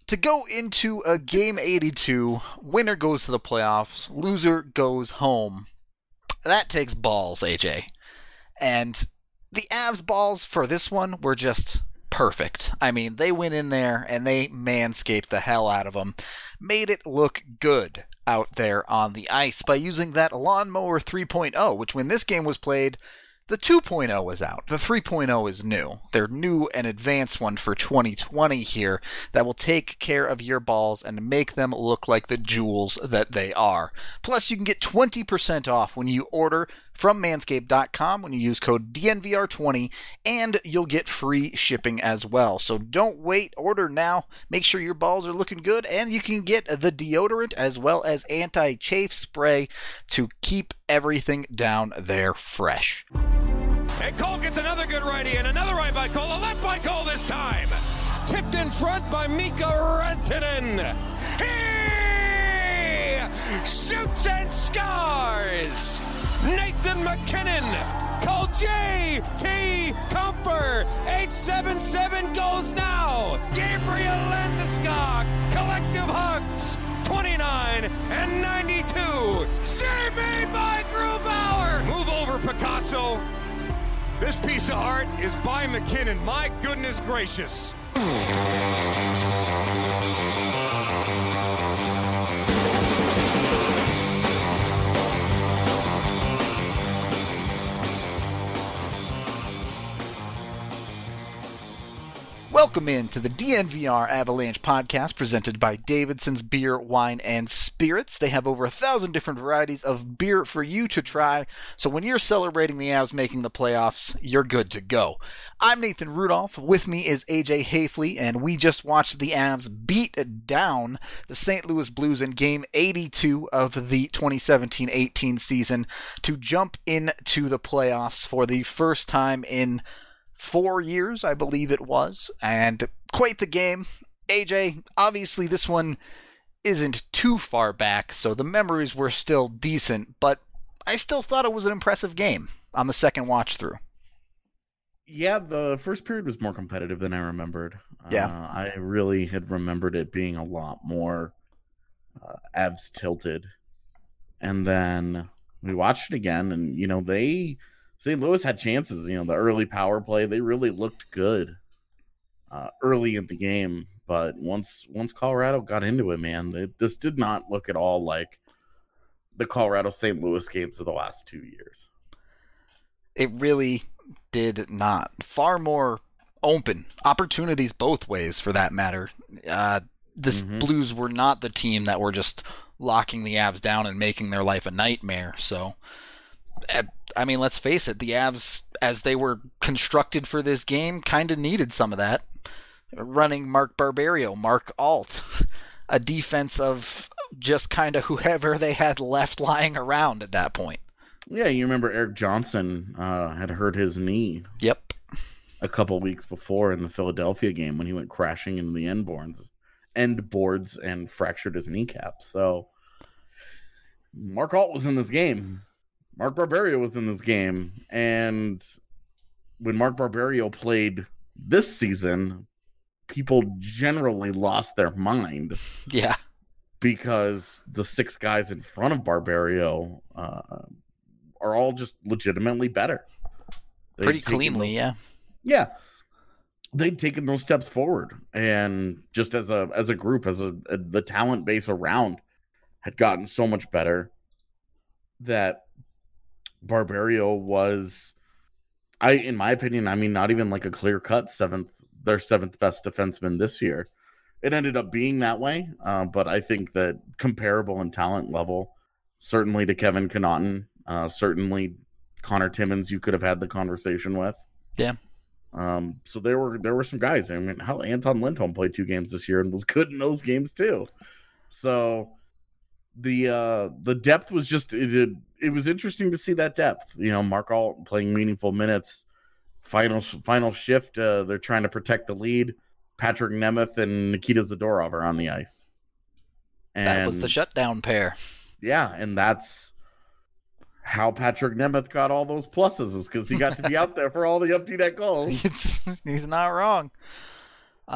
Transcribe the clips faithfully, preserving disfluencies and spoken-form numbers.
to go into a game eighty-two, winner goes to the playoffs, loser goes home. That takes balls, A J. And the Avs balls for this one were just perfect. I mean, they went in there and they manscaped the hell out of them. Made it look good out there on the ice by using that Lawnmower three point oh, which when this game was played, the two point oh was out. The three point oh is new. They're new and advanced one for twenty twenty here that will take care of your balls and make them look like the jewels that they are. Plus, you can get twenty percent off when you order from manscaped dot com when you use code D N V R twenty, and you'll get free shipping as well. So don't wait. Order now. Make sure your balls are looking good, and you can get the deodorant as well as anti-chafe spray to keep everything down there fresh. And Cole gets another good righty, and another right by Cole, a left by Cole this time. Tipped in front by Mika Rantanen. He shoots and scores. Nathan MacKinnon. Cole J T Comfer. eight seven seven goes now. Gabriel Landeskog. Collective hugs. twenty-nine and ninety-two. Save made by Grubauer. Move over, Picasso. This piece of art is by McKinnon. My goodness gracious. Welcome in to the D N V R Avalanche podcast presented by Davidson's Beer, Wine, and Spirits. They have over a thousand different varieties of beer for you to try, so when you're celebrating the Avs making the playoffs, you're good to go. I'm Nathan Rudolph. With me is A J Hafley, and we just watched the Avs beat down the Saint Louis Blues in Game eighty-two of the twenty seventeen eighteen season to jump into the playoffs for the first time in four years, I believe it was, and quite the game. A J, obviously this one isn't too far back, so the memories were still decent, but I still thought it was an impressive game on the second watch through. Yeah, the first period was more competitive than I remembered. Yeah. Uh, I really had remembered it being a lot more uh, Avs tilted. And then we watched it again, and, you know, they... Saint Louis had chances, you know, the early power play, they really looked good uh, early in the game. But once once Colorado got into it, man, it, this did not look at all like the Colorado Saint Louis games of the last two years. It really did not. Far more open. Opportunities both ways, for that matter. Uh, this mm-hmm. Blues were not the team that were just locking the Avs down and making their life a nightmare. So, at, I mean, let's face it, the Avs, as they were constructed for this game, kind of needed some of that. Running Mark Barberio, Mark Alt, a defense of just kind of whoever they had left lying around at that point. Yeah, you remember Eric Johnson uh, had hurt his knee. Yep. A couple weeks before in the Philadelphia game when he went crashing into the end boards, end boards and fractured his kneecap. So Mark Alt was in this game. Mark Barberio was in this game, and when Mark Barberio played this season, people generally lost their mind. Yeah. Because the six guys in front of Barberio uh, are all just legitimately better. They've Pretty cleanly, those, yeah. Yeah. They'd taken those steps forward, and just as a as a group, as a, a the talent base around had gotten so much better that Barberio was, I in my opinion, I mean, not even like a clear-cut seventh, their seventh best defenseman this year. It ended up being that way, uh, but I think that comparable in talent level, certainly to Kevin Connaughton, uh, certainly Connor Timmins, you could have had the conversation with. Yeah. Um, so there were there were some guys. I mean, hell, Anton Lindholm played two games this year and was good in those games too. So the uh, the depth was just it, it. It was interesting to see that depth. You know, Mark Alt playing meaningful minutes. Final final shift. Uh, they're trying to protect the lead. Patrick Nemeth and Nikita Zadorov are on the ice. And that was the shutdown pair. Yeah, and that's how Patrick Nemeth got all those pluses, is because he got to be out there for all the empty net goals. He's not wrong. Um,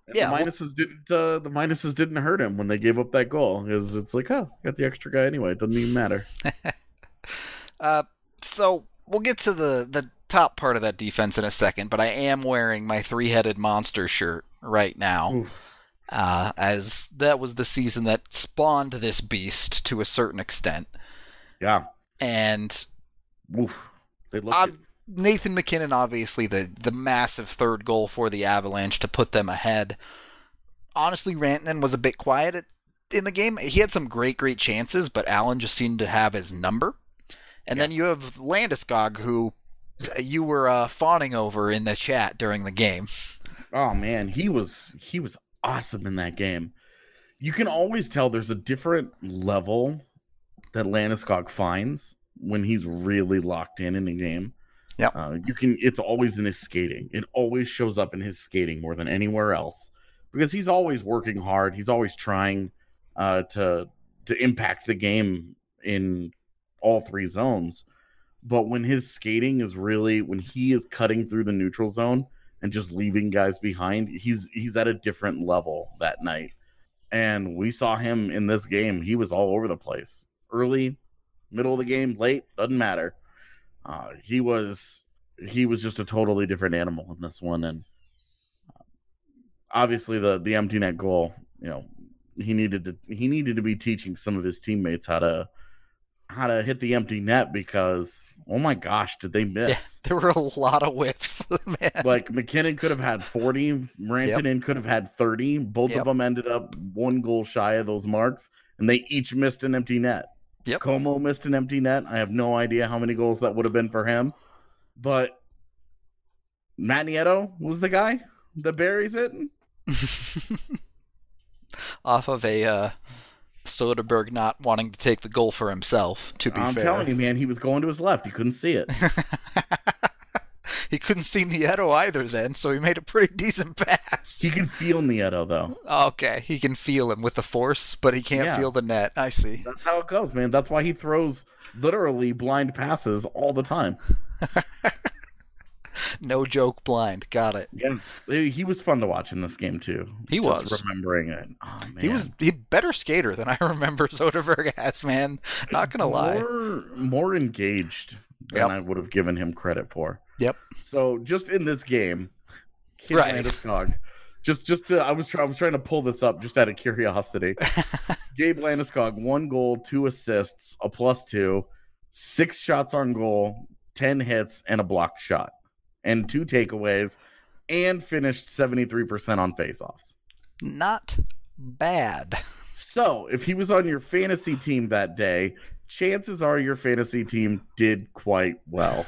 And Yeah, the well- minuses didn't. Uh, the minuses didn't hurt him when they gave up that goal, because it's like, oh, got the extra guy anyway. It doesn't even matter. Uh, so we'll get to the, the top part of that defense in a second, but I am wearing my three-headed monster shirt right now, Oof. uh, as that was the season that spawned this beast to a certain extent. Yeah. And Oof. They looked. uh, Nathan MacKinnon, obviously, the, the massive third goal for the Avalanche to put them ahead. Honestly, Rantanen was a bit quiet at, in the game. He had some great, great chances, but Allen just seemed to have his number. And Yeah. then you have Landeskog, who you were uh, fawning over in the chat during the game. Oh man, he was he was awesome in that game. You can always tell there's a different level that Landeskog finds when he's really locked in in the game. Yep. Uh, you can. It's always in his skating. It always shows up in his skating more than anywhere else, because he's always working hard. He's always trying uh, to to impact the game in all three zones. But when his skating is really, when he is cutting through the neutral zone and just leaving guys behind, he's he's at a different level that night. And we saw him in this game. He was all over the place. Early, middle of the game, late, doesn't matter. Uh, he was he was just a totally different animal in this one. And uh, obviously the the empty net goal, you know, he needed to he needed to be teaching some of his teammates how to how to hit the empty net, because oh my gosh, did they miss? There were a lot of whiffs, man. Like MacKinnon could have had forty, Rantanen could have had thirty. Both Yep. of them ended up one goal shy of those marks, and they each missed an empty net. Yep. Como missed an empty net. I have no idea how many goals that would have been for him, but Matt Nieto was the guy that buries it. Off of a uh, Soderberg not wanting to take the goal for himself, to be I'm fair. telling you, man, he was going to his left. He couldn't see it. He couldn't see Nieto either then, so he made a pretty decent pass. He can feel Nieto, though. Okay, he can feel him with the force, but he can't Yeah. feel the net. I see. That's how it goes, man. That's why he throws literally blind passes all the time. No joke blind. Got it. Yeah, he was fun to watch in this game too. He Just was. remembering it. Oh man, He was he better skater than I remember Soderberg as, man. Not gonna lie. more more engaged than Yep. I would have given him credit for. Yep. So just in this game, Gabe Right. Landeskog, just just to, I was try, I was trying to pull this up just out of curiosity. Gabe Landeskog, one goal, two assists, a plus two, six shots on goal, ten hits, and a blocked shot, and two takeaways, and finished seventy-three percent on faceoffs. Not bad. So, if he was on your fantasy team that day, chances are your fantasy team did quite well.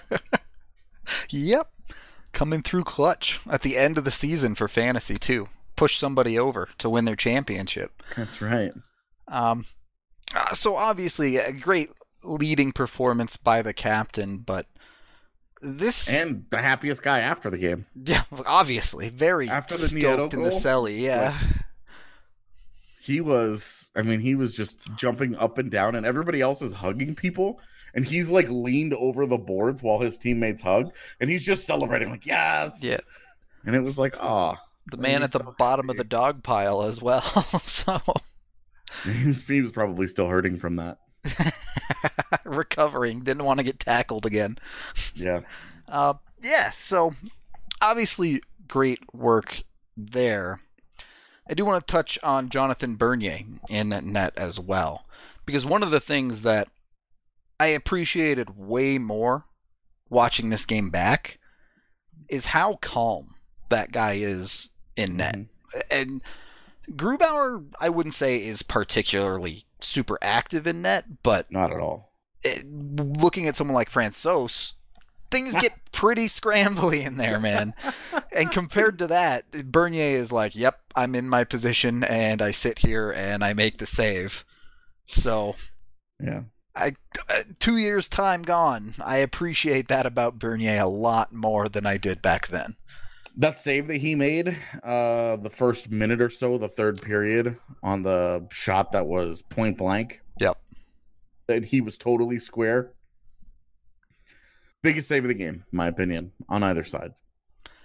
Yep. Coming through clutch at the end of the season for fantasy too. Push somebody over to win their championship. That's right. Um, uh, so obviously a great leading performance by the captain, but this And the happiest guy after the game. yeah, obviously very After the Nieto stoked in the goal? celly. Yeah, He was, I mean, he was just jumping up and down, and everybody else is hugging people. And he's like leaned over the boards while his teammates hug, and he's just celebrating, like, yes. yeah. And it was like, oh. The man he's at the so bottom of happy. the dog pile as well. So He was, he was probably still hurting from that. recovering, didn't want to get tackled again. Yeah. Uh, yeah, so obviously great work there. I do want to touch on Jonathan Bernier in net as well, because one of the things that I appreciated way more watching this game back is how calm that guy is in net. Mhm. And Grubauer, I wouldn't say is particularly super active in net, but Not at all. it, looking at someone like Francouz, things get pretty scrambly in there, man. And compared to that, Bernier is like, yep, I'm in my position and I sit here and I make the save. So Yeah. I uh, two years time gone. I appreciate that about Bernier a lot more than I did back then. That save that he made, uh, the first minute or so, the third period, on the shot that was point blank, Yep. that he was totally square. Biggest save of the game, in my opinion, on either side.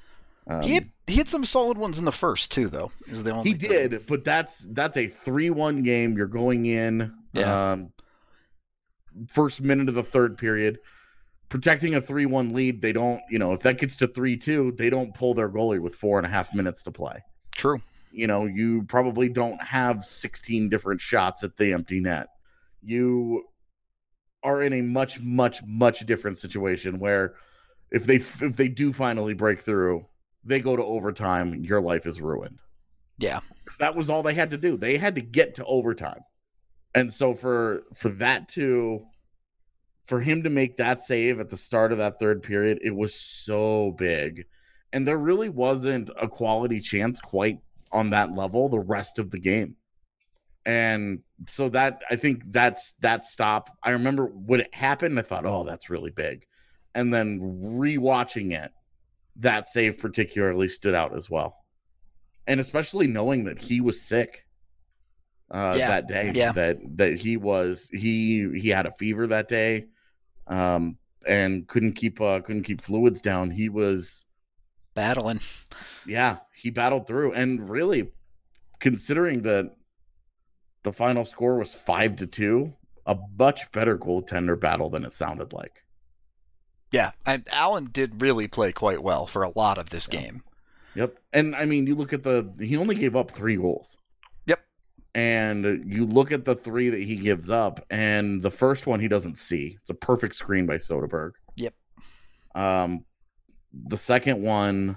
Um, he hit, he hit some solid ones in the first too, though. Is the only he thing. did, but that's that's a three one game. You're going in, Yeah. um, first minute of the third period, protecting a three one lead. They don't, you know, if that gets to three two, they don't pull their goalie with four and a half minutes to play. True. You know, you probably don't have sixteen different shots at the empty net. You are in a much, much, much different situation where if they if they do finally break through, they go to overtime, your life is ruined. Yeah. That was all they had to do. They had to get to overtime. And so for for that to for him to make that save at the start of that third period, it was so big. And there really wasn't a quality chance quite on that level the rest of the game. And so that, I think that's that stop. I remember when it happened, I thought, oh, that's really big. And then rewatching it, that save particularly stood out as well. And especially knowing that he was sick uh, Yeah. that day, Yeah. that that he was he he had a fever that day, um, and couldn't keep uh, couldn't keep fluids down. He was Battling. yeah, he battled through, and really, considering that the final score was five to two, a much better goaltender battle than it sounded like. Yeah. And Allen did really play quite well for a lot of this game. Yep. And I mean, you look at the, he only gave up three goals. Yep. And you look at the three that he gives up, and the first one he doesn't see. It's a perfect screen by Soderberg. Yep. Um, the second one,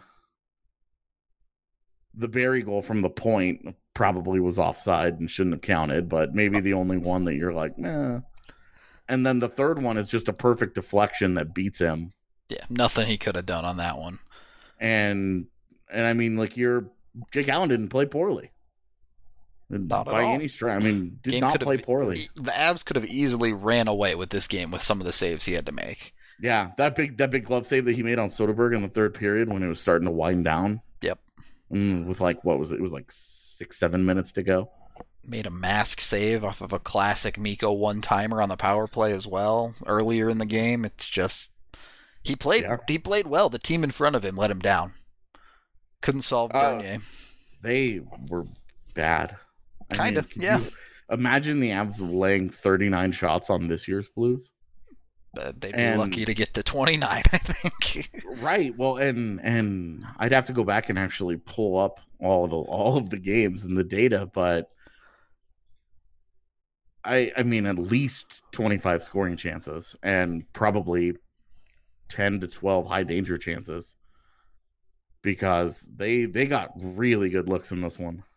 the Barry goal from the point probably was offside and shouldn't have counted, but maybe the only one that you're like, nah. And then the third one is just a perfect deflection that beats him. Yeah. Nothing he could have done on that one. And and I mean, like, you're Jake Allen didn't play poorly. Not at by all. any stretch. I mean, did Game not could play have- poorly. The Avs could have easily ran away with this game with some of the saves he had to make. Yeah, that big that big glove save that he made on Soderberg in the third period when it was starting to wind down. Yep. Mm, with like, what was it? It was like six, seven minutes to go. Made a mask save off of a classic Mikko one-timer on the power play as well earlier in the game. It's just he played Yeah. he played well. The team in front of him let him down. Couldn't solve Uh, Bernier. They were bad. I Kinda, mean, could yeah. you imagine the Avs laying thirty-nine shots on this year's Blues. But they'd and- be lucky to get to twenty-nine, I think. Right. Well, and and I'd have to go back and actually pull up all of the all of the games and the data, but I I mean at least twenty-five scoring chances and probably ten to twelve high danger chances, because they they got really good looks in this one.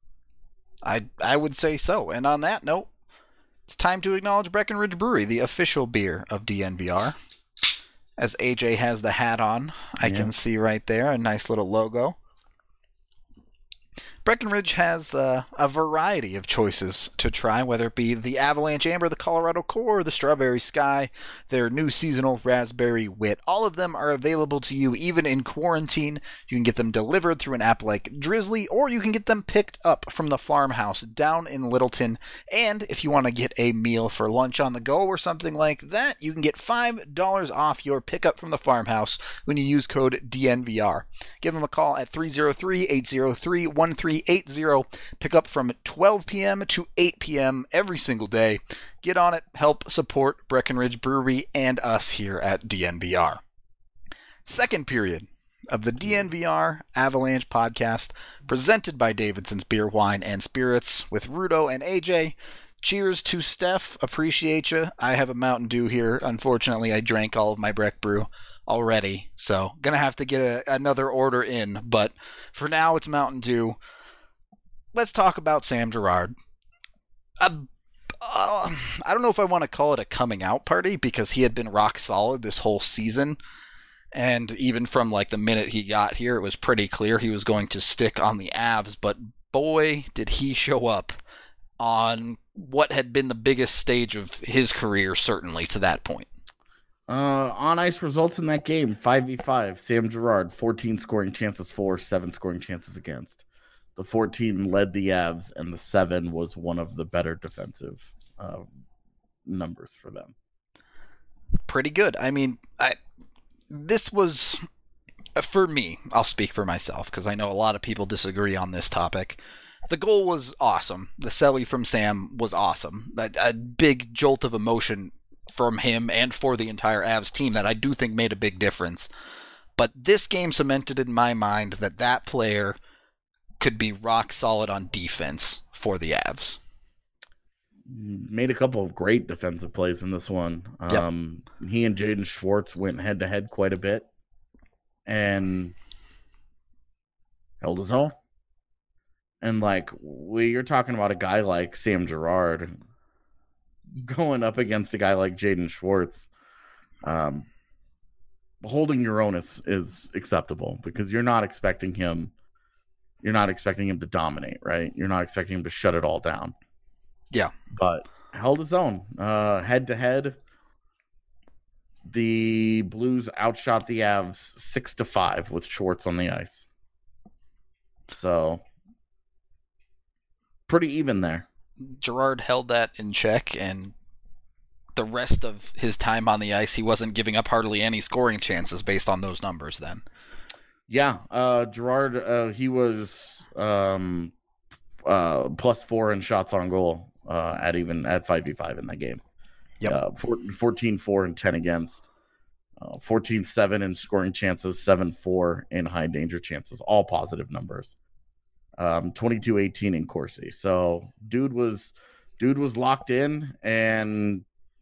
I I would say so. And on that note, it's time to acknowledge Breckenridge Brewery, the official beer of D N V R. As A J has the hat on, I Yeah. can see right there a nice little logo. Breckenridge has uh, a variety of choices to try, whether it be the Avalanche Amber, the Colorado Core, the Strawberry Sky, their new seasonal Raspberry Wit. All of them are available to you even in quarantine. You can get them delivered through an app like Drizzly, or you can get them picked up from the farmhouse down in Littleton. And if you want to get a meal for lunch on the go or something like that, you can get five dollars off your pickup from the farmhouse when you use code D N V R. Give them a call at three oh three, eight oh three, one three eight zero. Pick up from twelve p.m. to eight p.m. every single day. Get on it. Help support Breckenridge Brewery and us here at D N V R. Second period of the D N V R Avalanche podcast, presented by Davidson's Beer, Wine, and Spirits with Rudo and A J. Cheers to Steph. Appreciate you. I have a Mountain Dew here. Unfortunately, I drank all of my Breck Brew already, so gonna have to get a, another order in, but for now it's Mountain Dew. Let's talk about Sam Girard. Uh, uh, I don't know if I want to call it a coming out party, because he had been rock solid this whole season, and even from like the minute he got here, it was pretty clear he was going to stick on the Avs, but boy did he show up on what had been the biggest stage of his career, certainly to that point. Uh, on ice results in that game: five v five. Sam Girard, fourteen scoring chances for, seven scoring chances against. The fourteen led the Avs, and the seven was one of the better defensive uh, numbers for them. Pretty good. I mean, I, this was for me, I'll speak for myself because I know a lot of people disagree on this topic. The goal was awesome. The celly from Sam was awesome. A, a big jolt of emotion from him and for the entire Avs team that I do think made a big difference. But this game cemented in my mind that that player could be rock solid on defense for the Avs. Made a couple of great defensive plays in this one. Yep. Um, he and Jaden Schwartz went head to head quite a bit and held his own. And like we, you're talking about a guy like Sam Girard going up against a guy like Jaden Schwartz. Um, holding your own is, is acceptable because you're not expecting him. You're not expecting him to dominate, right? You're not expecting him to shut it all down. Yeah. But held his own. Uh, head-to-head, the Blues outshot the Avs six to five with Schwartz on the ice. So, pretty even there. Girard held that in check, and the rest of his time on the ice, he wasn't giving up hardly any scoring chances based on those numbers then. Yeah, uh, Girard, uh, he was um, uh, plus four in shots on goal. Uh, at even at five v five in that game. Yep. Uh, fourteen four and ten against. Uh, fourteen seven in scoring chances, seven four in high danger chances. All positive numbers. Um, twenty-two eighteen in Corsi. So dude was dude was locked in and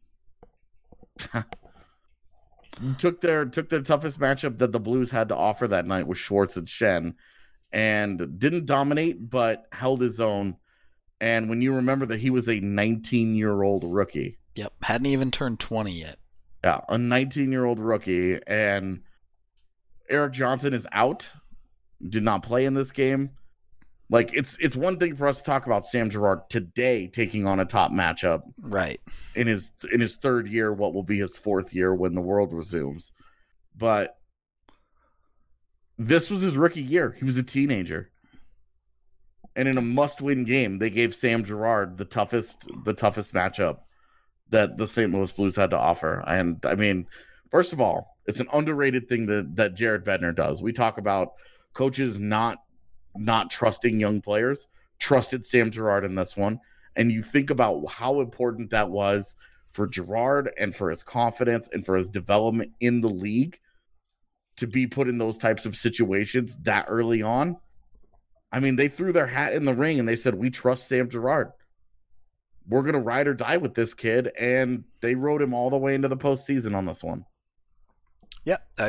took their took their toughest matchup that the Blues had to offer that night with Schwartz and Schenn, and didn't dominate, but held his own. And when you remember that he was a nineteen-year-old rookie. Yep, hadn't even turned twenty yet. Yeah, a nineteen-year-old rookie. And Erik Johnson is out. Did not play in this game. Like, it's it's one thing for us to talk about Sam Girard today taking on a top matchup. Right. In his in his third year, what will be his fourth year when the world resumes. But this was his rookie year. He was a teenager. And in a must-win game, they gave Sam Girard the toughest, the toughest matchup that the Saint Louis Blues had to offer. And I mean, first of all, it's an underrated thing that that Jared Bednar does. We talk about coaches not not trusting young players. Trusted Sam Girard in this one, and you think about how important that was for Girard and for his confidence and for his development in the league to be put in those types of situations that early on. I mean, they threw their hat in the ring and they said, we trust Sam Girard. We're going to ride or die with this kid. And they rode him all the way into the postseason on this one. Yep. Uh,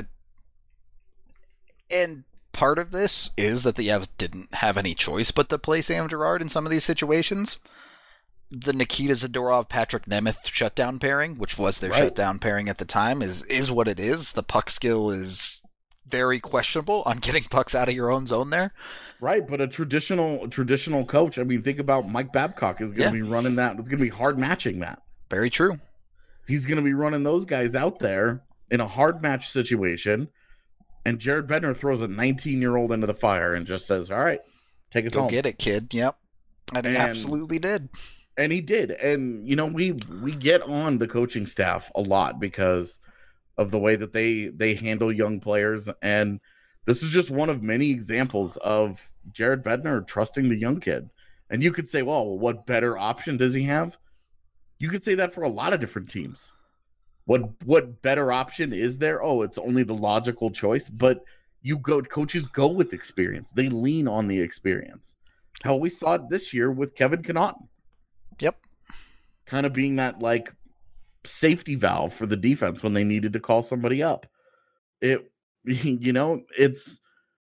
and part of this is that the Avs didn't have any choice but to play Sam Girard in some of these situations. The Nikita Zadorov, Patrick Nemeth shutdown pairing, which was their right. shutdown pairing at the time, is, is what it is. The puck skill is very questionable on getting pucks out of your own zone there. Right, but a traditional traditional coach, I mean, think about Mike Babcock is going to yeah. be running that. It's going to be hard matching that. Very true. He's going to be running those guys out there in a hard match situation, and Jared Bednar throws a nineteen-year-old into the fire and just says, all right, take us Go home. Go get it, kid. Yep. And he and, absolutely did. And he did. And, you know, we we get on the coaching staff a lot because of the way that they they handle young players, and this is just one of many examples of Jared Bednar trusting the young kid. And you could say, well, what better option does he have? You could say that for a lot of different teams. What what better option is there? Oh, it's only the logical choice. But you go, coaches go with experience. They lean on the experience. Hell, we saw it this year with Kevin Connaughton. Yep. Kind of being that, like, safety valve for the defense when they needed to call somebody up. It, you know, it's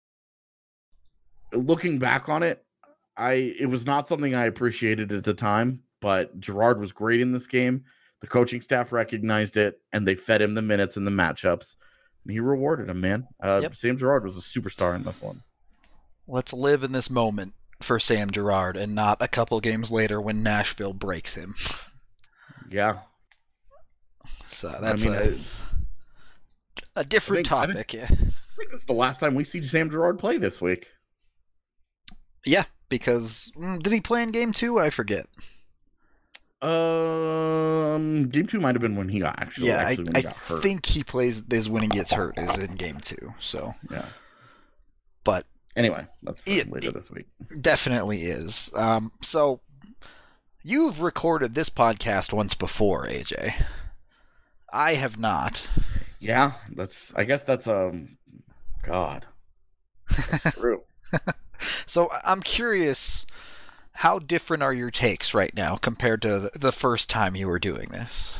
looking back on it, I it was not something I appreciated at the time, but Girard was great in this game. The coaching staff recognized it, and they fed him the minutes and the matchups, and he rewarded him, man. Uh, yep. Sam Girard was a superstar in this one. Let's live in this moment for Sam Girard and not a couple games later when Nashville breaks him. Yeah. So that's I mean, a, a different I think, topic. I yeah. think this is the last time we see Sam Girard play this week. Yeah, because did he play in game two? I forget. Um, game two might have been when he got actually. Yeah, actually I, when he I got hurt. think he plays is when he gets hurt is in game two. So yeah, Anyway, that's for It- later it- this week. Definitely is. Um, so you've recorded this podcast once before, A J. I have not. Yeah, that's. I guess that's um. God, that's true. So I'm curious, how different are your takes right now compared to the, the first time you were doing this?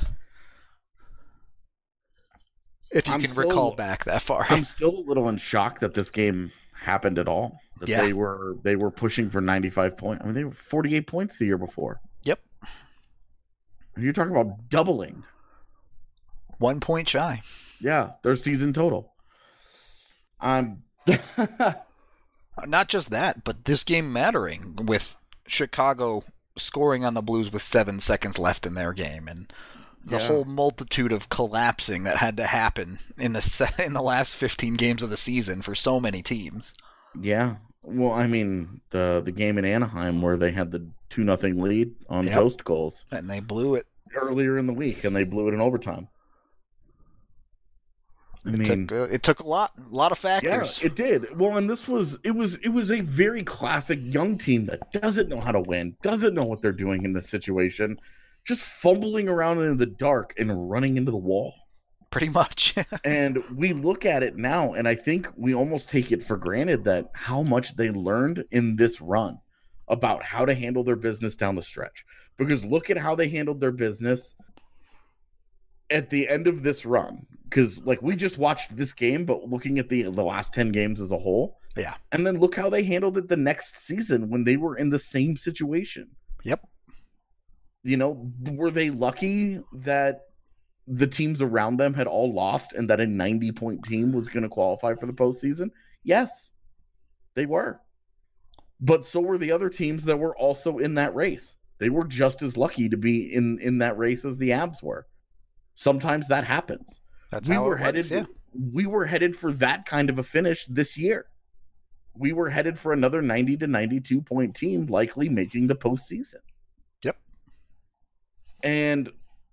If you I'm can still- recall back that far. I'm still a little in shock that this game happened at all. That Yeah. they were they were pushing for ninety-five points. I mean, they were forty-eight points the year before. Yep. You're talking about doubling. One point shy. Yeah, their season total. I'm. Not just that, but this game mattering with Chicago scoring on the Blues with seven seconds left in their game, and the Yeah. whole multitude of collapsing that had to happen in the se- in the last fifteen games of the season for so many teams. Yeah. Well, I mean, the the game in Anaheim where they had the two nothing lead on Yep. post goals And they blew it. earlier in the week, and they blew it in overtime. I It mean, took uh, it took a lot, a lot of yeah, factors. it did. Well, and this was it was it was a very classic young team that doesn't know how to win, doesn't know what they're doing in this situation, just fumbling around in the dark and running into the wall. Pretty much. And we look at it now, and I think we almost take it for granted that how much they learned in this run about how to handle their business down the stretch. Because look at how they handled their business at the end of this run. Because like we just watched this game, but looking at the the last ten games as a whole, Yeah. and then look how they handled it the next season when they were in the same situation. Yep. You know, were they lucky that the teams around them had all lost and that a ninety point team was going to qualify for the postseason? Yes, they were. But so were the other teams that were also in that race. They were just as lucky to be in, in that race as the Avs were. Sometimes that happens. That's we how were it headed works, yeah. we were headed for that kind of a finish this year. We were headed for another ninety to ninety-two point team likely making the postseason. Yep. And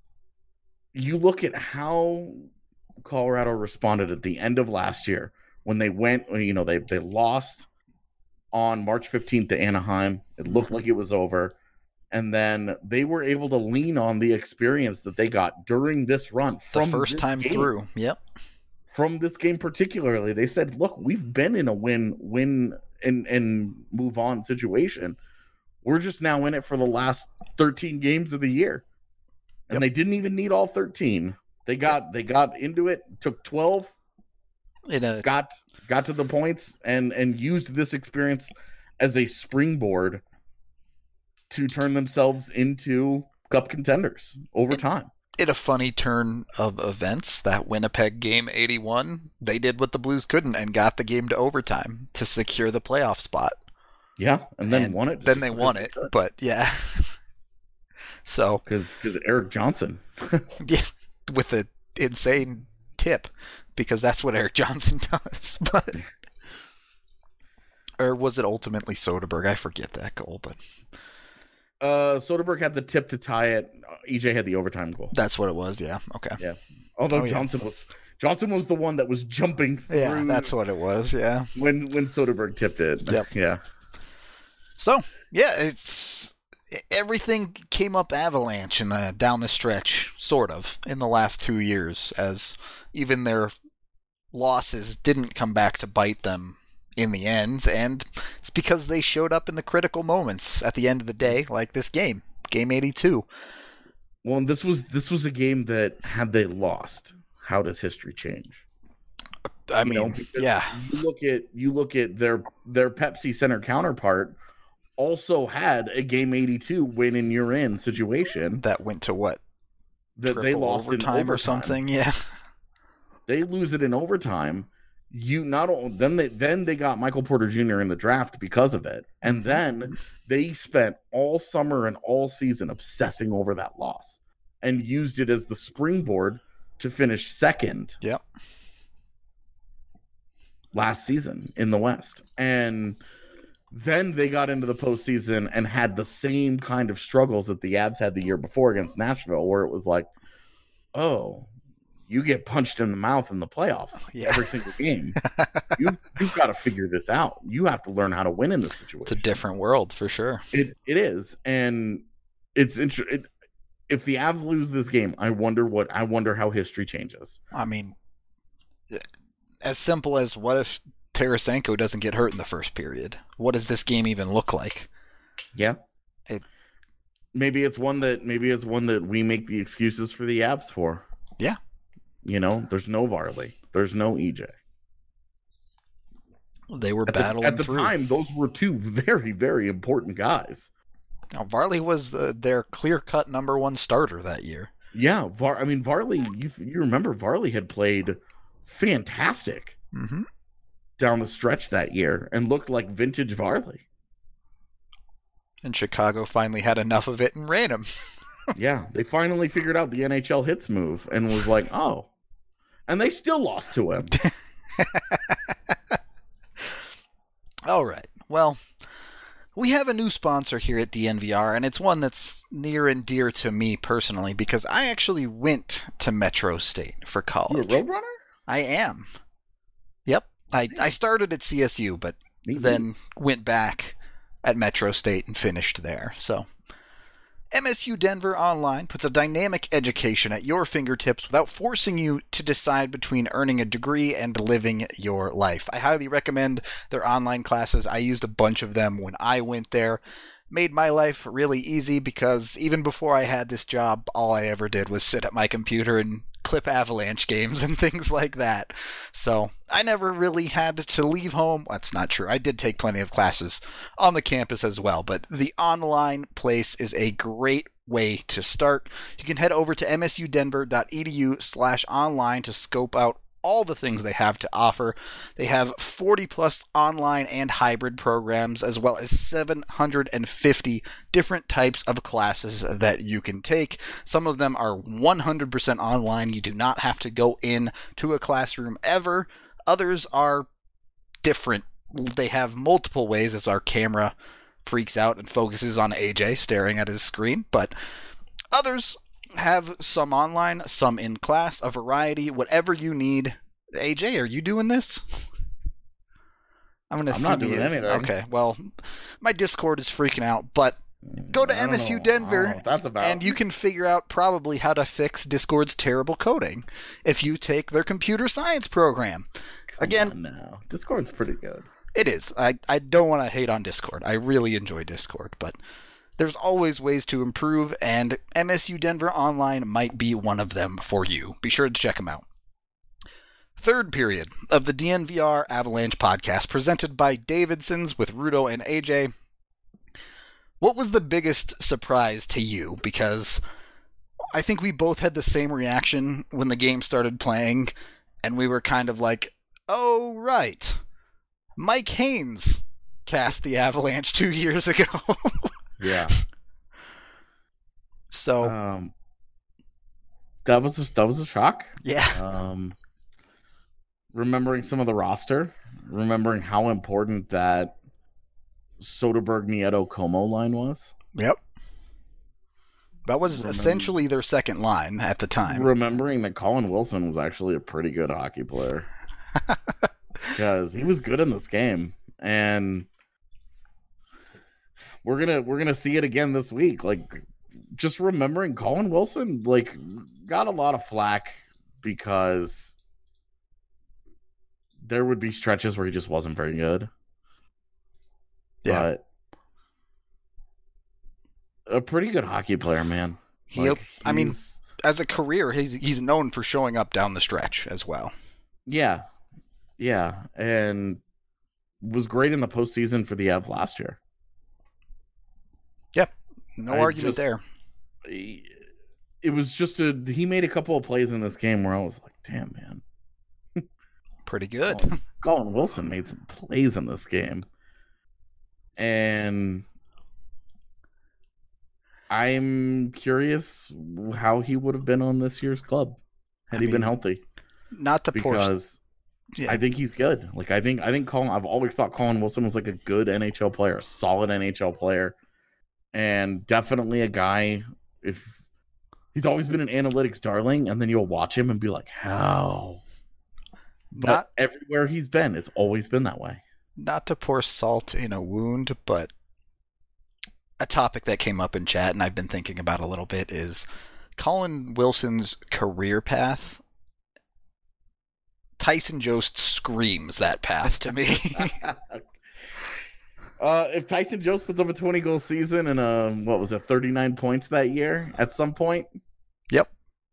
you look at how Colorado responded at the end of last year when they went, you know, they they lost on March fifteenth to Anaheim. It looked like it was over. And then they were able to lean on the experience that they got during this run The from first this time game. through. Yep. From this game particularly. They said, look, we've been in a win, win and, and move on situation. We're just now in it for the last thirteen games of the year. And Yep. they didn't even need all thirteen. They got they got into it, took twelve, In a got got to the points, and and used this experience as a springboard to turn themselves into cup contenders over time. in a funny turn of events, that Winnipeg game eighty-one, they did what the Blues couldn't and got the game to overtime to secure the playoff spot. Yeah, and then And won it. Then they won it, but yeah. So because because Eric Johnson. yeah, with an insane tip, because that's what Eric Johnson does. But or was it ultimately Soderberg? I forget that goal, but Uh, Soderbergh had the tip to tie it. E J had the overtime goal. that's what it was. Yeah. Okay. Yeah. Although Oh, yeah. Johnson was Johnson was the one that was jumping through Yeah, that's what it was. Yeah. when when Soderbergh tipped it. Yep. Yeah. So yeah, it's everything came up avalanche in the down the stretch, sort of, in the last two years, as even their losses didn't come back to bite them in the end, and it's because they showed up in the critical moments at the end of the day, like this game, game eighty-two. Well, and this was this was a game that had they lost, how does history change? I You know, mean, because yeah, You look at you look at their their Pepsi Center counterpart also had a game eighty-two win and you're in situation that went to what? that they Triple lost in overtime overtime or something. Yeah, They lose it in overtime. You not only then they then they got Michael Porter Junior in the draft because of it, and then they spent all summer and all season obsessing over that loss and used it as the springboard to finish second yep. last season in the West. And then they got into the postseason and had the same kind of struggles that the Avs had the year before against Nashville, where it was like, oh, you get punched in the mouth in the playoffs Yeah. every single game. you, you've got to figure this out. You have to learn how to win in this situation. It's a different world for sure. It It is. And it's interesting. It, if the Avs lose this game, I wonder what I wonder how history changes. I mean, as simple as what if Tarasenko doesn't get hurt in the first period? What does this game even look like? Yeah. It, maybe it's one that maybe it's one that we make the excuses for the Avs for. Yeah. You know, there's no Varley. There's no E J. They were At battling the, at the through. time, those were two very, very important guys. Now, Varley was the, their clear-cut number one starter that year. Yeah, Var. I mean, Varley. You you remember Varley had played fantastic Mm-hmm. down the stretch that year and looked like vintage Varley. And Chicago finally had enough of it and ran him. Yeah, they finally figured out the N H L hits move and was like, oh. And they still lost to him. All right. Well, we have a new sponsor here at D N V R, and it's one that's near and dear to me personally because I actually went to Metro State for You a college. Roadrunner? I am. Yep. I, I started at C S U, but Me too. then went back at Metro State and finished there. So M S U Denver Online puts a dynamic education at your fingertips without forcing you to decide between earning a degree and living your life. I highly recommend their online classes. I used a bunch of them when I went there. Made my life really easy because even before I had this job, all I ever did was sit at my computer and clip Avalanche games and things like that. So I never really had to leave home. That's not true. I did take plenty of classes on the campus as well, but the online place is a great way to start. You can head over to msudenver.edu slash online to scope out all the things they have to offer. They have forty plus online and hybrid programs, as well as seven hundred fifty different types of classes that you can take. Some of them are one hundred percent online. You do not have to go in to a classroom ever. Others are different. They have multiple ways, as our camera freaks out and focuses on A J staring at his screen, but others have some online, some in class, a variety, whatever you need. A J, are you doing this? I'm going to I'm assume not he doing is. anything. Okay, well, my Discord is freaking out, but go to I don't M S U know. I don't know Denver what that's about. and you can figure out probably how to fix Discord's terrible coding if you take their computer science program. Come Again, on now. Discord's pretty good. it is. I, I don't want to hate on Discord. I really enjoy Discord, but there's always ways to improve, and M S U Denver Online might be one of them for you. Be sure to check them out. Third period of the D N V R Avalanche podcast, presented by Davidson's with Rudo and A J. What was the biggest surprise to you? Because I think we both had the same reaction when the game started playing, and we were kind of like, oh, right. Mike Haynes cast the Avalanche two years ago. Yeah. So, Um, that was a, that was a shock. yeah. Um, remembering some of the roster, remembering how important that Soderberg, Nieto, Como line was. Yep. That was Remember- essentially their second line at the time. Remembering that Colin Wilson was actually a pretty good hockey player. Because he was good in this game. And we're gonna we're gonna see it again this week. Like, just remembering Colin Wilson, like, got a lot of flack because there would be stretches where he just wasn't very good. Yeah. But a pretty good hockey player, man. He, Like, I mean, he's- as a career, he's he's known for showing up down the stretch as well. yeah, yeah, and was great in the postseason for the Avs last year. Yep. No I argument just- there. It was just a he made a couple of plays in this game where I was like, damn, man. Pretty good. Colin, Colin Wilson made some plays in this game. And I'm curious how he would have been on this year's club had I he been mean, healthy. Not to pour. Because Yeah. I think he's good. Like I think I think Colin I've always thought Colin Wilson was like a good N H L player, a solid N H L player. And definitely a guy if He's always been an analytics darling, and then you'll watch him and be like, how? But Not everywhere he's been, it's always been that way. not to pour salt in a wound, but a topic that came up in chat and I've been thinking about a little bit is Colin Wilson's career path. Tyson Jost screams that path to me. uh, if Tyson Jost puts up a twenty-goal season and, uh, what was it, thirty-nine points that year at some point? Yep.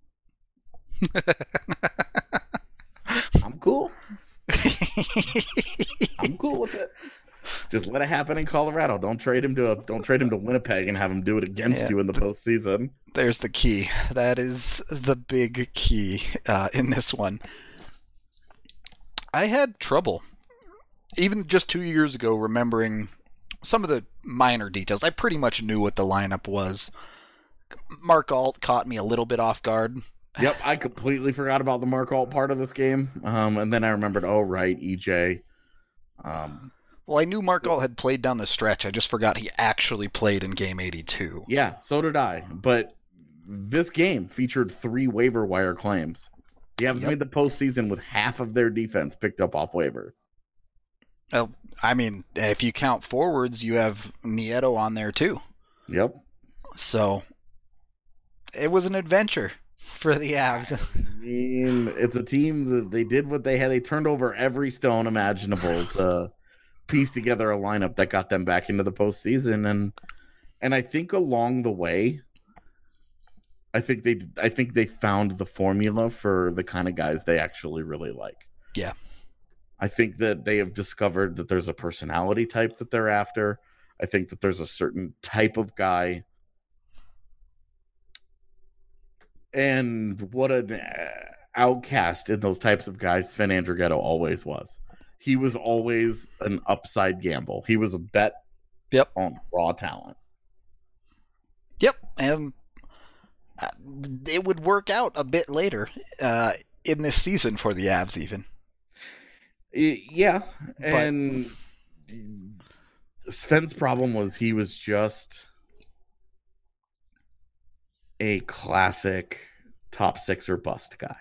I'm cool. I'm cool with it. Just let it happen in Colorado. Don't trade him to a, don't trade him to Winnipeg and have him do it against Yeah, you in the postseason. There's the key. That is the big key uh, in this one. I had trouble, even just two years ago, remembering some of the minor details. I pretty much knew what the lineup was. Mark Alt caught me a little bit off guard. Yep, I completely forgot about the Mark Alt part of this game. Um, and then I remembered, oh, right, E J. Um, Well, I knew Mark Alt had played down the stretch. I just forgot he actually played in game eighty-two. yeah, so did I. But this game featured three waiver wire claims. The Avs Yep. made the postseason with half of their defense picked up off waivers. Well, I mean, if you count forwards, you have Nieto on there too. Yep. So it was an adventure for the Avs. I mean, it's a team that they did what they had. They turned over every stone imaginable to piece together a lineup that got them back into the postseason. And and I think along the way, I think they I think they found the formula for the kind of guys they actually really like. Yeah. I think that they have discovered that there's a personality type that they're after. I think that there's a certain type of guy. And what an outcast in those types of guys Sven Andrighetto always was. He was always an upside gamble. He was a bet Yep. on raw talent. Yep. And uh, it would work out a bit later uh, in this season for the Avs even. Y- Yeah. And Sven's problem was he was just a classic top six or bust guy.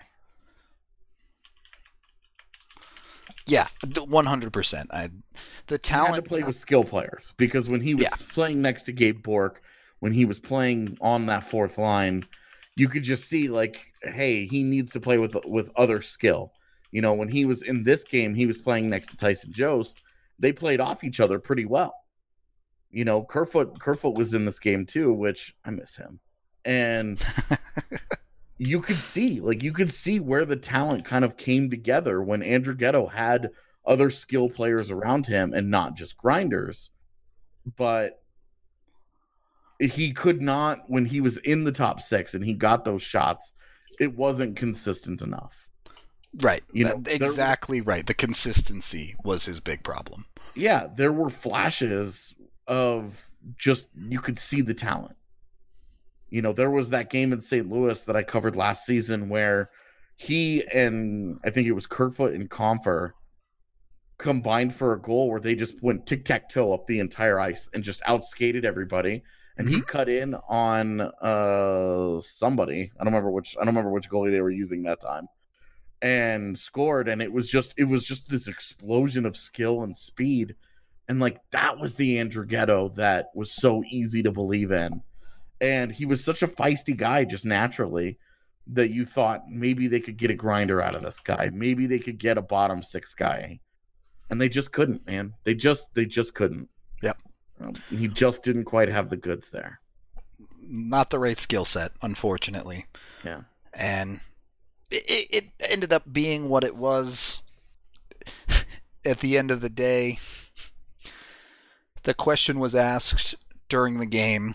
Yeah, one hundred percent. I, the He had talent. to play with skill players because when he was Yeah. playing next to Gabe Bork, when he was playing on that fourth line, you could just see like, hey, he needs to play with with other skill. You know, when he was in this game, he was playing next to Tyson Jost. They played off each other pretty well. You know, Kerfoot Kerfoot was in this game too, which I miss him. And you could see, like, you could see where the talent kind of came together when Andrighetto had other skill players around him and not just grinders. But he could not, when he was in the top six and he got those shots, it wasn't consistent enough. Right. You know, That- exactly right. The consistency was his big problem. Yeah, there were flashes of just, you could see the talent. You know, there was that game in Saint Louis that I covered last season where he and I think it was Kerfoot and Compher combined for a goal where they just went tic-tac-toe up the entire ice and just outskated everybody. And he cut in on uh, somebody. I don't remember which. I don't remember which goalie they were using that time, and scored. And it was just, it was just this explosion of skill and speed, and like that was the Andrighetto that was so easy to believe in. And he was such a feisty guy just naturally that you thought maybe they could get a grinder out of this guy. Maybe they could get a bottom six guy. And they just couldn't, man. They just they just couldn't. Yep. Um, he just didn't quite have the goods there. Not the right skill set, unfortunately. Yeah. And it, it ended up being what it was at the end of the day. The question was asked during the game.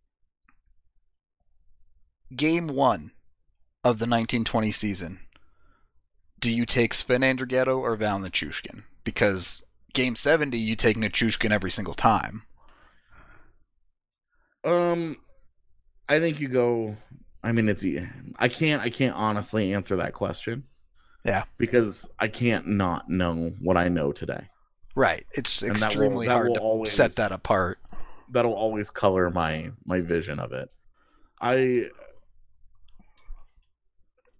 Game one of the nineteen twenty season. Do you take Sven Andrighetto or Val Nichushkin? Because game seventy, you take Nichushkin every single time. Um, I think you go. I mean, it's. I can't. I can't honestly answer that question. Yeah, because I can't not know what I know today. Right. It's And that will- extremely that hard will to always- set that apart. That'll always color my my vision of it. I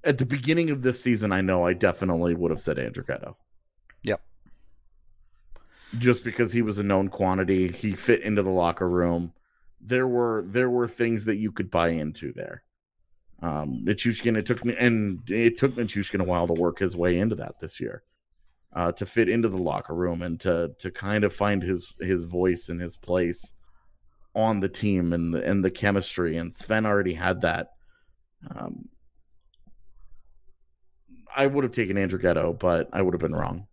at the beginning of this season, I know I definitely would have said Andrighetto. Yep. Just because he was a known quantity, he fit into the locker room. There were there were things that you could buy into there. Um, Nichushkin, it took me and it took Nichushkin a while to work his way into that this year, uh, to fit into the locker room and to to kind of find his his voice and his place on the team and the and the chemistry. And Sven already had that. Um, I would have taken Andrighetto, but I would have been wrong.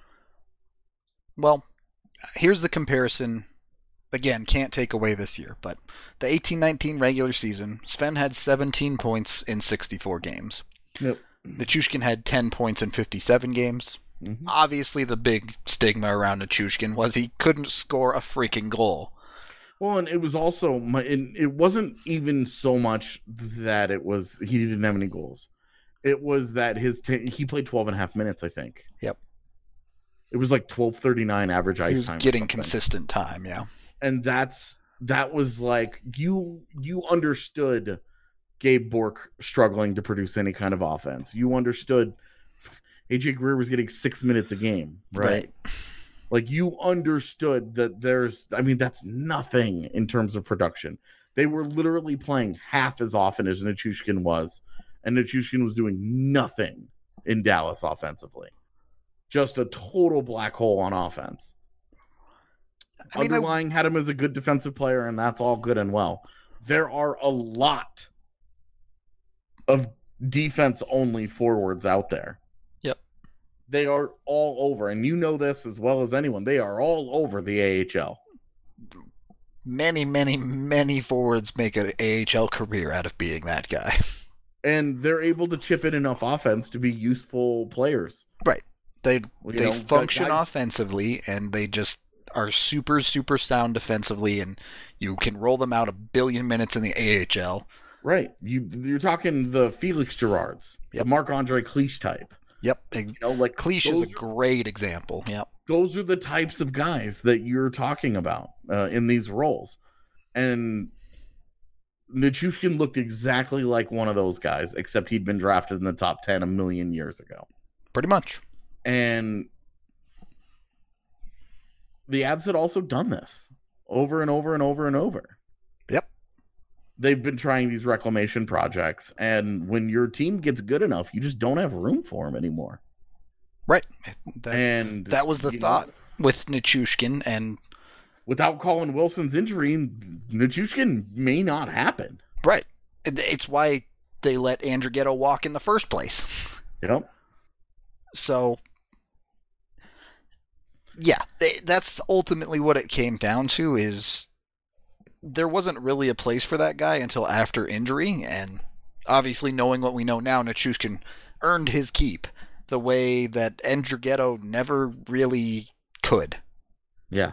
Well, here's the comparison. Again, can't take away this year, but the eighteen nineteen regular season, Sven had seventeen points in sixty-four games. Yep. Nichushkin had ten points in fifty-seven games. Mm-hmm. Obviously, the big stigma around Nichushkin was he couldn't score a freaking goal. Well, and it was also, my, it wasn't even so much that it was, he didn't have any goals. It was that his, t- he played twelve and a half minutes, I think. Yep. It was like twelve thirty-nine average ice time. He was time getting consistent time, yeah. And that's that was like you you understood Gabe Bourque struggling to produce any kind of offense. You understood A J Greer was getting six minutes a game, right? right? Like you understood that there's I mean that's nothing in terms of production. They were literally playing half as often as Nichushkin was, and Nichushkin was doing nothing in Dallas offensively. Just a total black hole on offense. I mean, Underlying I... had him as a good defensive player, and that's all good and well. There are a lot of defense-only forwards out there. Yep. They are all over, and you know this as well as anyone. They are all over the A H L. Many, many, many forwards make an A H L career out of being that guy. And they're able to chip in enough offense to be useful players. Right. They well, they know, function guys... offensively, and they just are super, super sound defensively, and you can roll them out a billion minutes in the A H L. Right. You, you're talking the Felix Gerards, yep. the Marc-Andre Cliche type. Yep. You know, like Cliche is a great are, example. Yep. Those are the types of guys that you're talking about uh, in these roles. And Nichushkin looked exactly like one of those guys, except he'd been drafted in the top ten a million years ago. Pretty much. And the Avs had also done this over and over and over and over. Yep. They've been trying these reclamation projects, and when your team gets good enough, you just don't have room for them anymore. Right. That, and that was the thought know, with Nichushkin, and without Colin Wilson's injury, Nichushkin may not happen. Right. It's why they let Andrighetto walk in the first place. Yep. So, yeah, that's ultimately what it came down to, is there wasn't really a place for that guy until after injury, and obviously knowing what we know now, Nichushkin earned his keep the way that Andrighetto never really could. Yeah.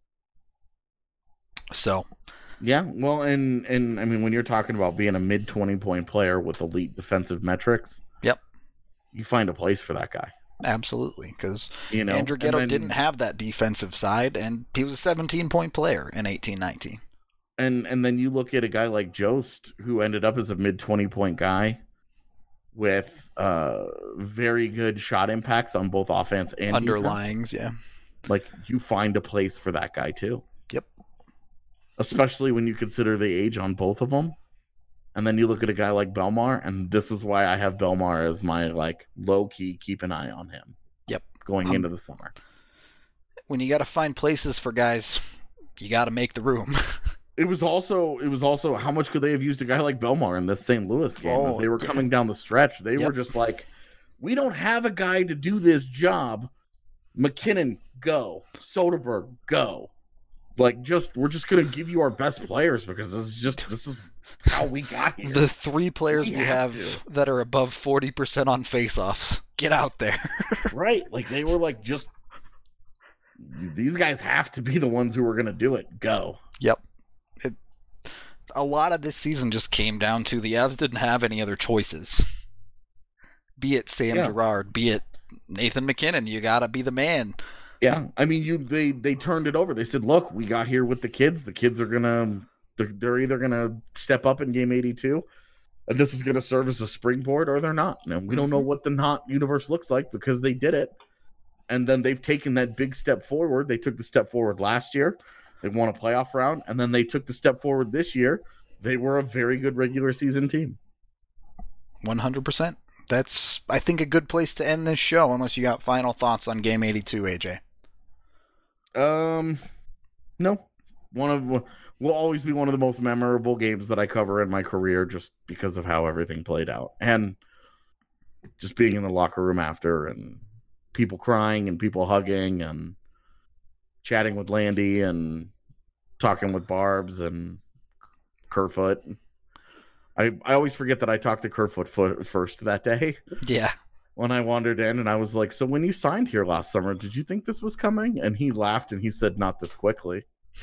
So. Yeah, well, and, and I mean, when you're talking about being a mid twenty-point player with elite defensive metrics, yep, you find a place for that guy. Absolutely, because you know, Andrighetto then, didn't have that defensive side, and he was a seventeen-point player in eighteen nineteen. And and then you look at a guy like Jost, who ended up as a mid twenty-point guy with uh, very good shot impacts on both offense and underlyings, defense. Yeah. Like, you find a place for that guy, too. Yep. Especially when you consider the age on both of them. And then you look at a guy like Belmar, and this is why I have Belmar as my, like, low-key keep an eye on him. Yep. Going um, into the summer. When you got to find places for guys, you got to make the room. It was also, it was also, how much could they have used a guy like Belmar in this Saint Louis game? Oh, as they were coming down the stretch, they yep. were just like, we don't have a guy to do this job. McKinnon, go. Soderberg, go. Like, just, we're just going to give you our best players because this is just, this is how we got here. The three players we, we have, have that are above forty percent on faceoffs, get out there. Right. Like, they were like, just, these guys have to be the ones who are going to do it. Go. Yep. It, a lot of this season just came down to the Avs didn't have any other choices. Be it Sam yeah. Girard, be it Nathan McKinnon, you got to be the man. Yeah, I mean, you they they turned it over. They said, "Look, we got here with the kids. The kids are gonna, they're, they're either gonna step up in game eighty-two, And this is going to serve as a springboard, or they're not. Now, we don't know what the not universe looks like because they did it. And then they've taken that big step forward. They took the step forward last year. They won a playoff round. And then they took the step forward this year. They were a very good regular season team. one hundred percent. That's, I think, a good place to end this show, unless you got final thoughts on Game eighty-two, A J. Um, no. One of will always be one of the most memorable games that I cover in my career, just because of how everything played out, and just being in the locker room after, and people crying and people hugging and chatting with Landy and talking with Barbs and Kerfoot. I, I always forget that I talked to Kerfoot first that day. Yeah. When I wandered in, and I was like, so when you signed here last summer, did you think this was coming? And he laughed and he said, not this quickly.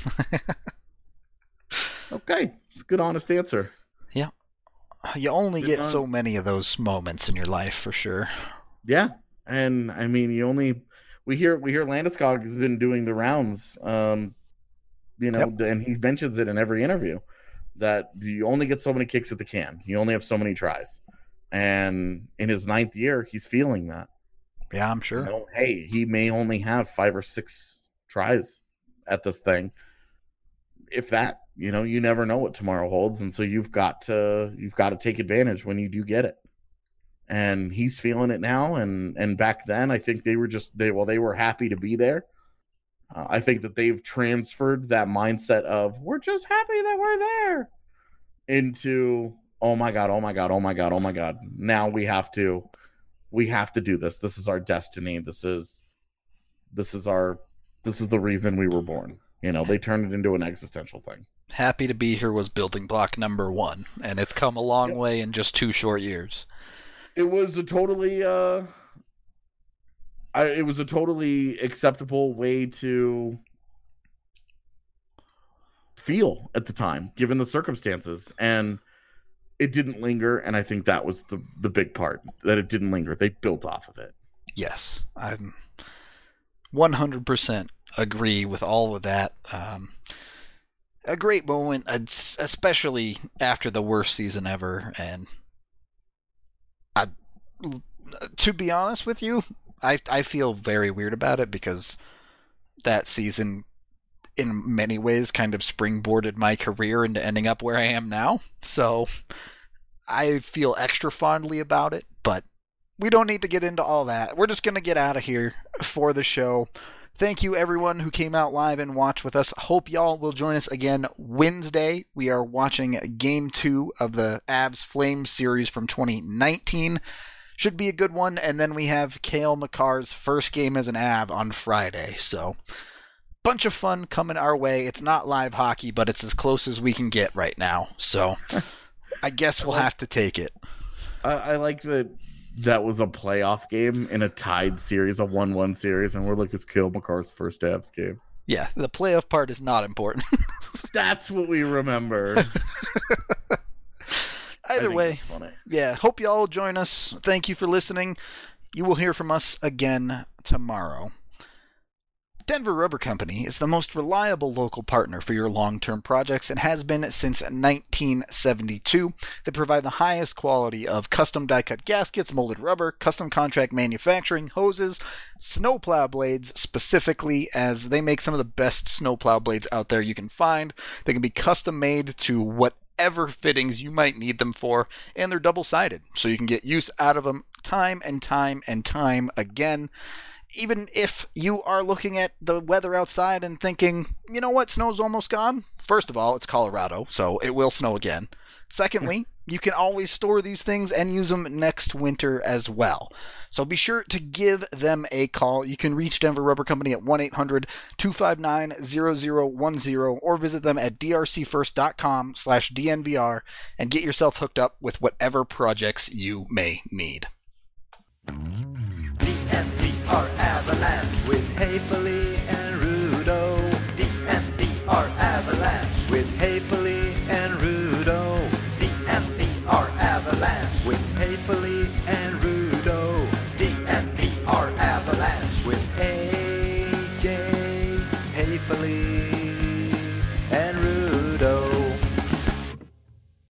Okay. It's a good, honest answer. Yeah. You only Good get on- so many of those moments in your life, for sure. Yeah. And I mean, you only, we hear, we hear Landeskog has been doing the rounds, um, you know, Yep. and he mentions it in every interview that you only get so many kicks at the can. You only have so many tries. And in his ninth year, he's feeling that. Yeah, I'm sure. You know, hey, he may only have five or six tries at this thing. If that, you know, you never know what tomorrow holds. And so you've got to, you've got to take advantage when you do get it. And he's feeling it now. And, and back then, I think they were just, they, well, they were happy to be there. Uh, I think that they've transferred that mindset of, we're just happy that we're there, into, oh my God, oh my God, oh my God, oh my God. Now we have to, we have to do this. This is our destiny. This is, this is our, this is the reason we were born. You know, they turned it into an existential thing. Happy to be here was building block number one, and it's come a long Yep. way in just two short years. It was a totally, uh, I, it was a totally acceptable way to feel at the time, given the circumstances. And it didn't linger, and I think that was the, the big part, that it didn't linger. They built off of it. Yes, I'm one hundred percent agree with all of that. Um, a great moment, especially after the worst season ever. And I, to be honest with you, I I feel very weird about it, because that season, in many ways, kind of springboarded my career into ending up where I am now. So I feel extra fondly about it, but we don't need to get into all that. We're just going to get out of here for the show. Thank you, everyone who came out live and watched with us. Hope y'all will join us again Wednesday. We are watching Game two of the Avs Flames series from twenty nineteen. Should be a good one. And then we have Cale Makar's first game as an Av on Friday. So, bunch of fun coming our way. It's not live hockey, but it's as close as we can get right now. So, I guess we'll have to take it. I, I like that that was a playoff game in a tied series, a one one series, and we're like, it's Cale Makar's first Avs game. Yeah, the playoff part is not important. That's what we remember. Either way, yeah, hope you all join us. Thank you for listening. You will hear from us again tomorrow. Denver Rubber Company is the most reliable local partner for your long-term projects and has been since nineteen seventy-two. They provide the highest quality of custom die-cut gaskets, molded rubber, custom contract manufacturing, hoses, snowplow blades specifically, as they make some of the best snowplow blades out there you can find. They can be custom made to whatever fittings you might need them for, and they're double-sided, so you can get use out of them time and time and time again. Even if you are looking at the weather outside and thinking, you know what, snow's almost gone. First of all, it's Colorado, so it will snow again. Secondly, you can always store these things and use them next winter as well. So be sure to give them a call. You can reach Denver Rubber Company at one eight hundred two five nine zero zero one zero or visit them at drcfirst.com slash DNVR and get yourself hooked up with whatever projects you may need. D N V R Avalanche with Hayfully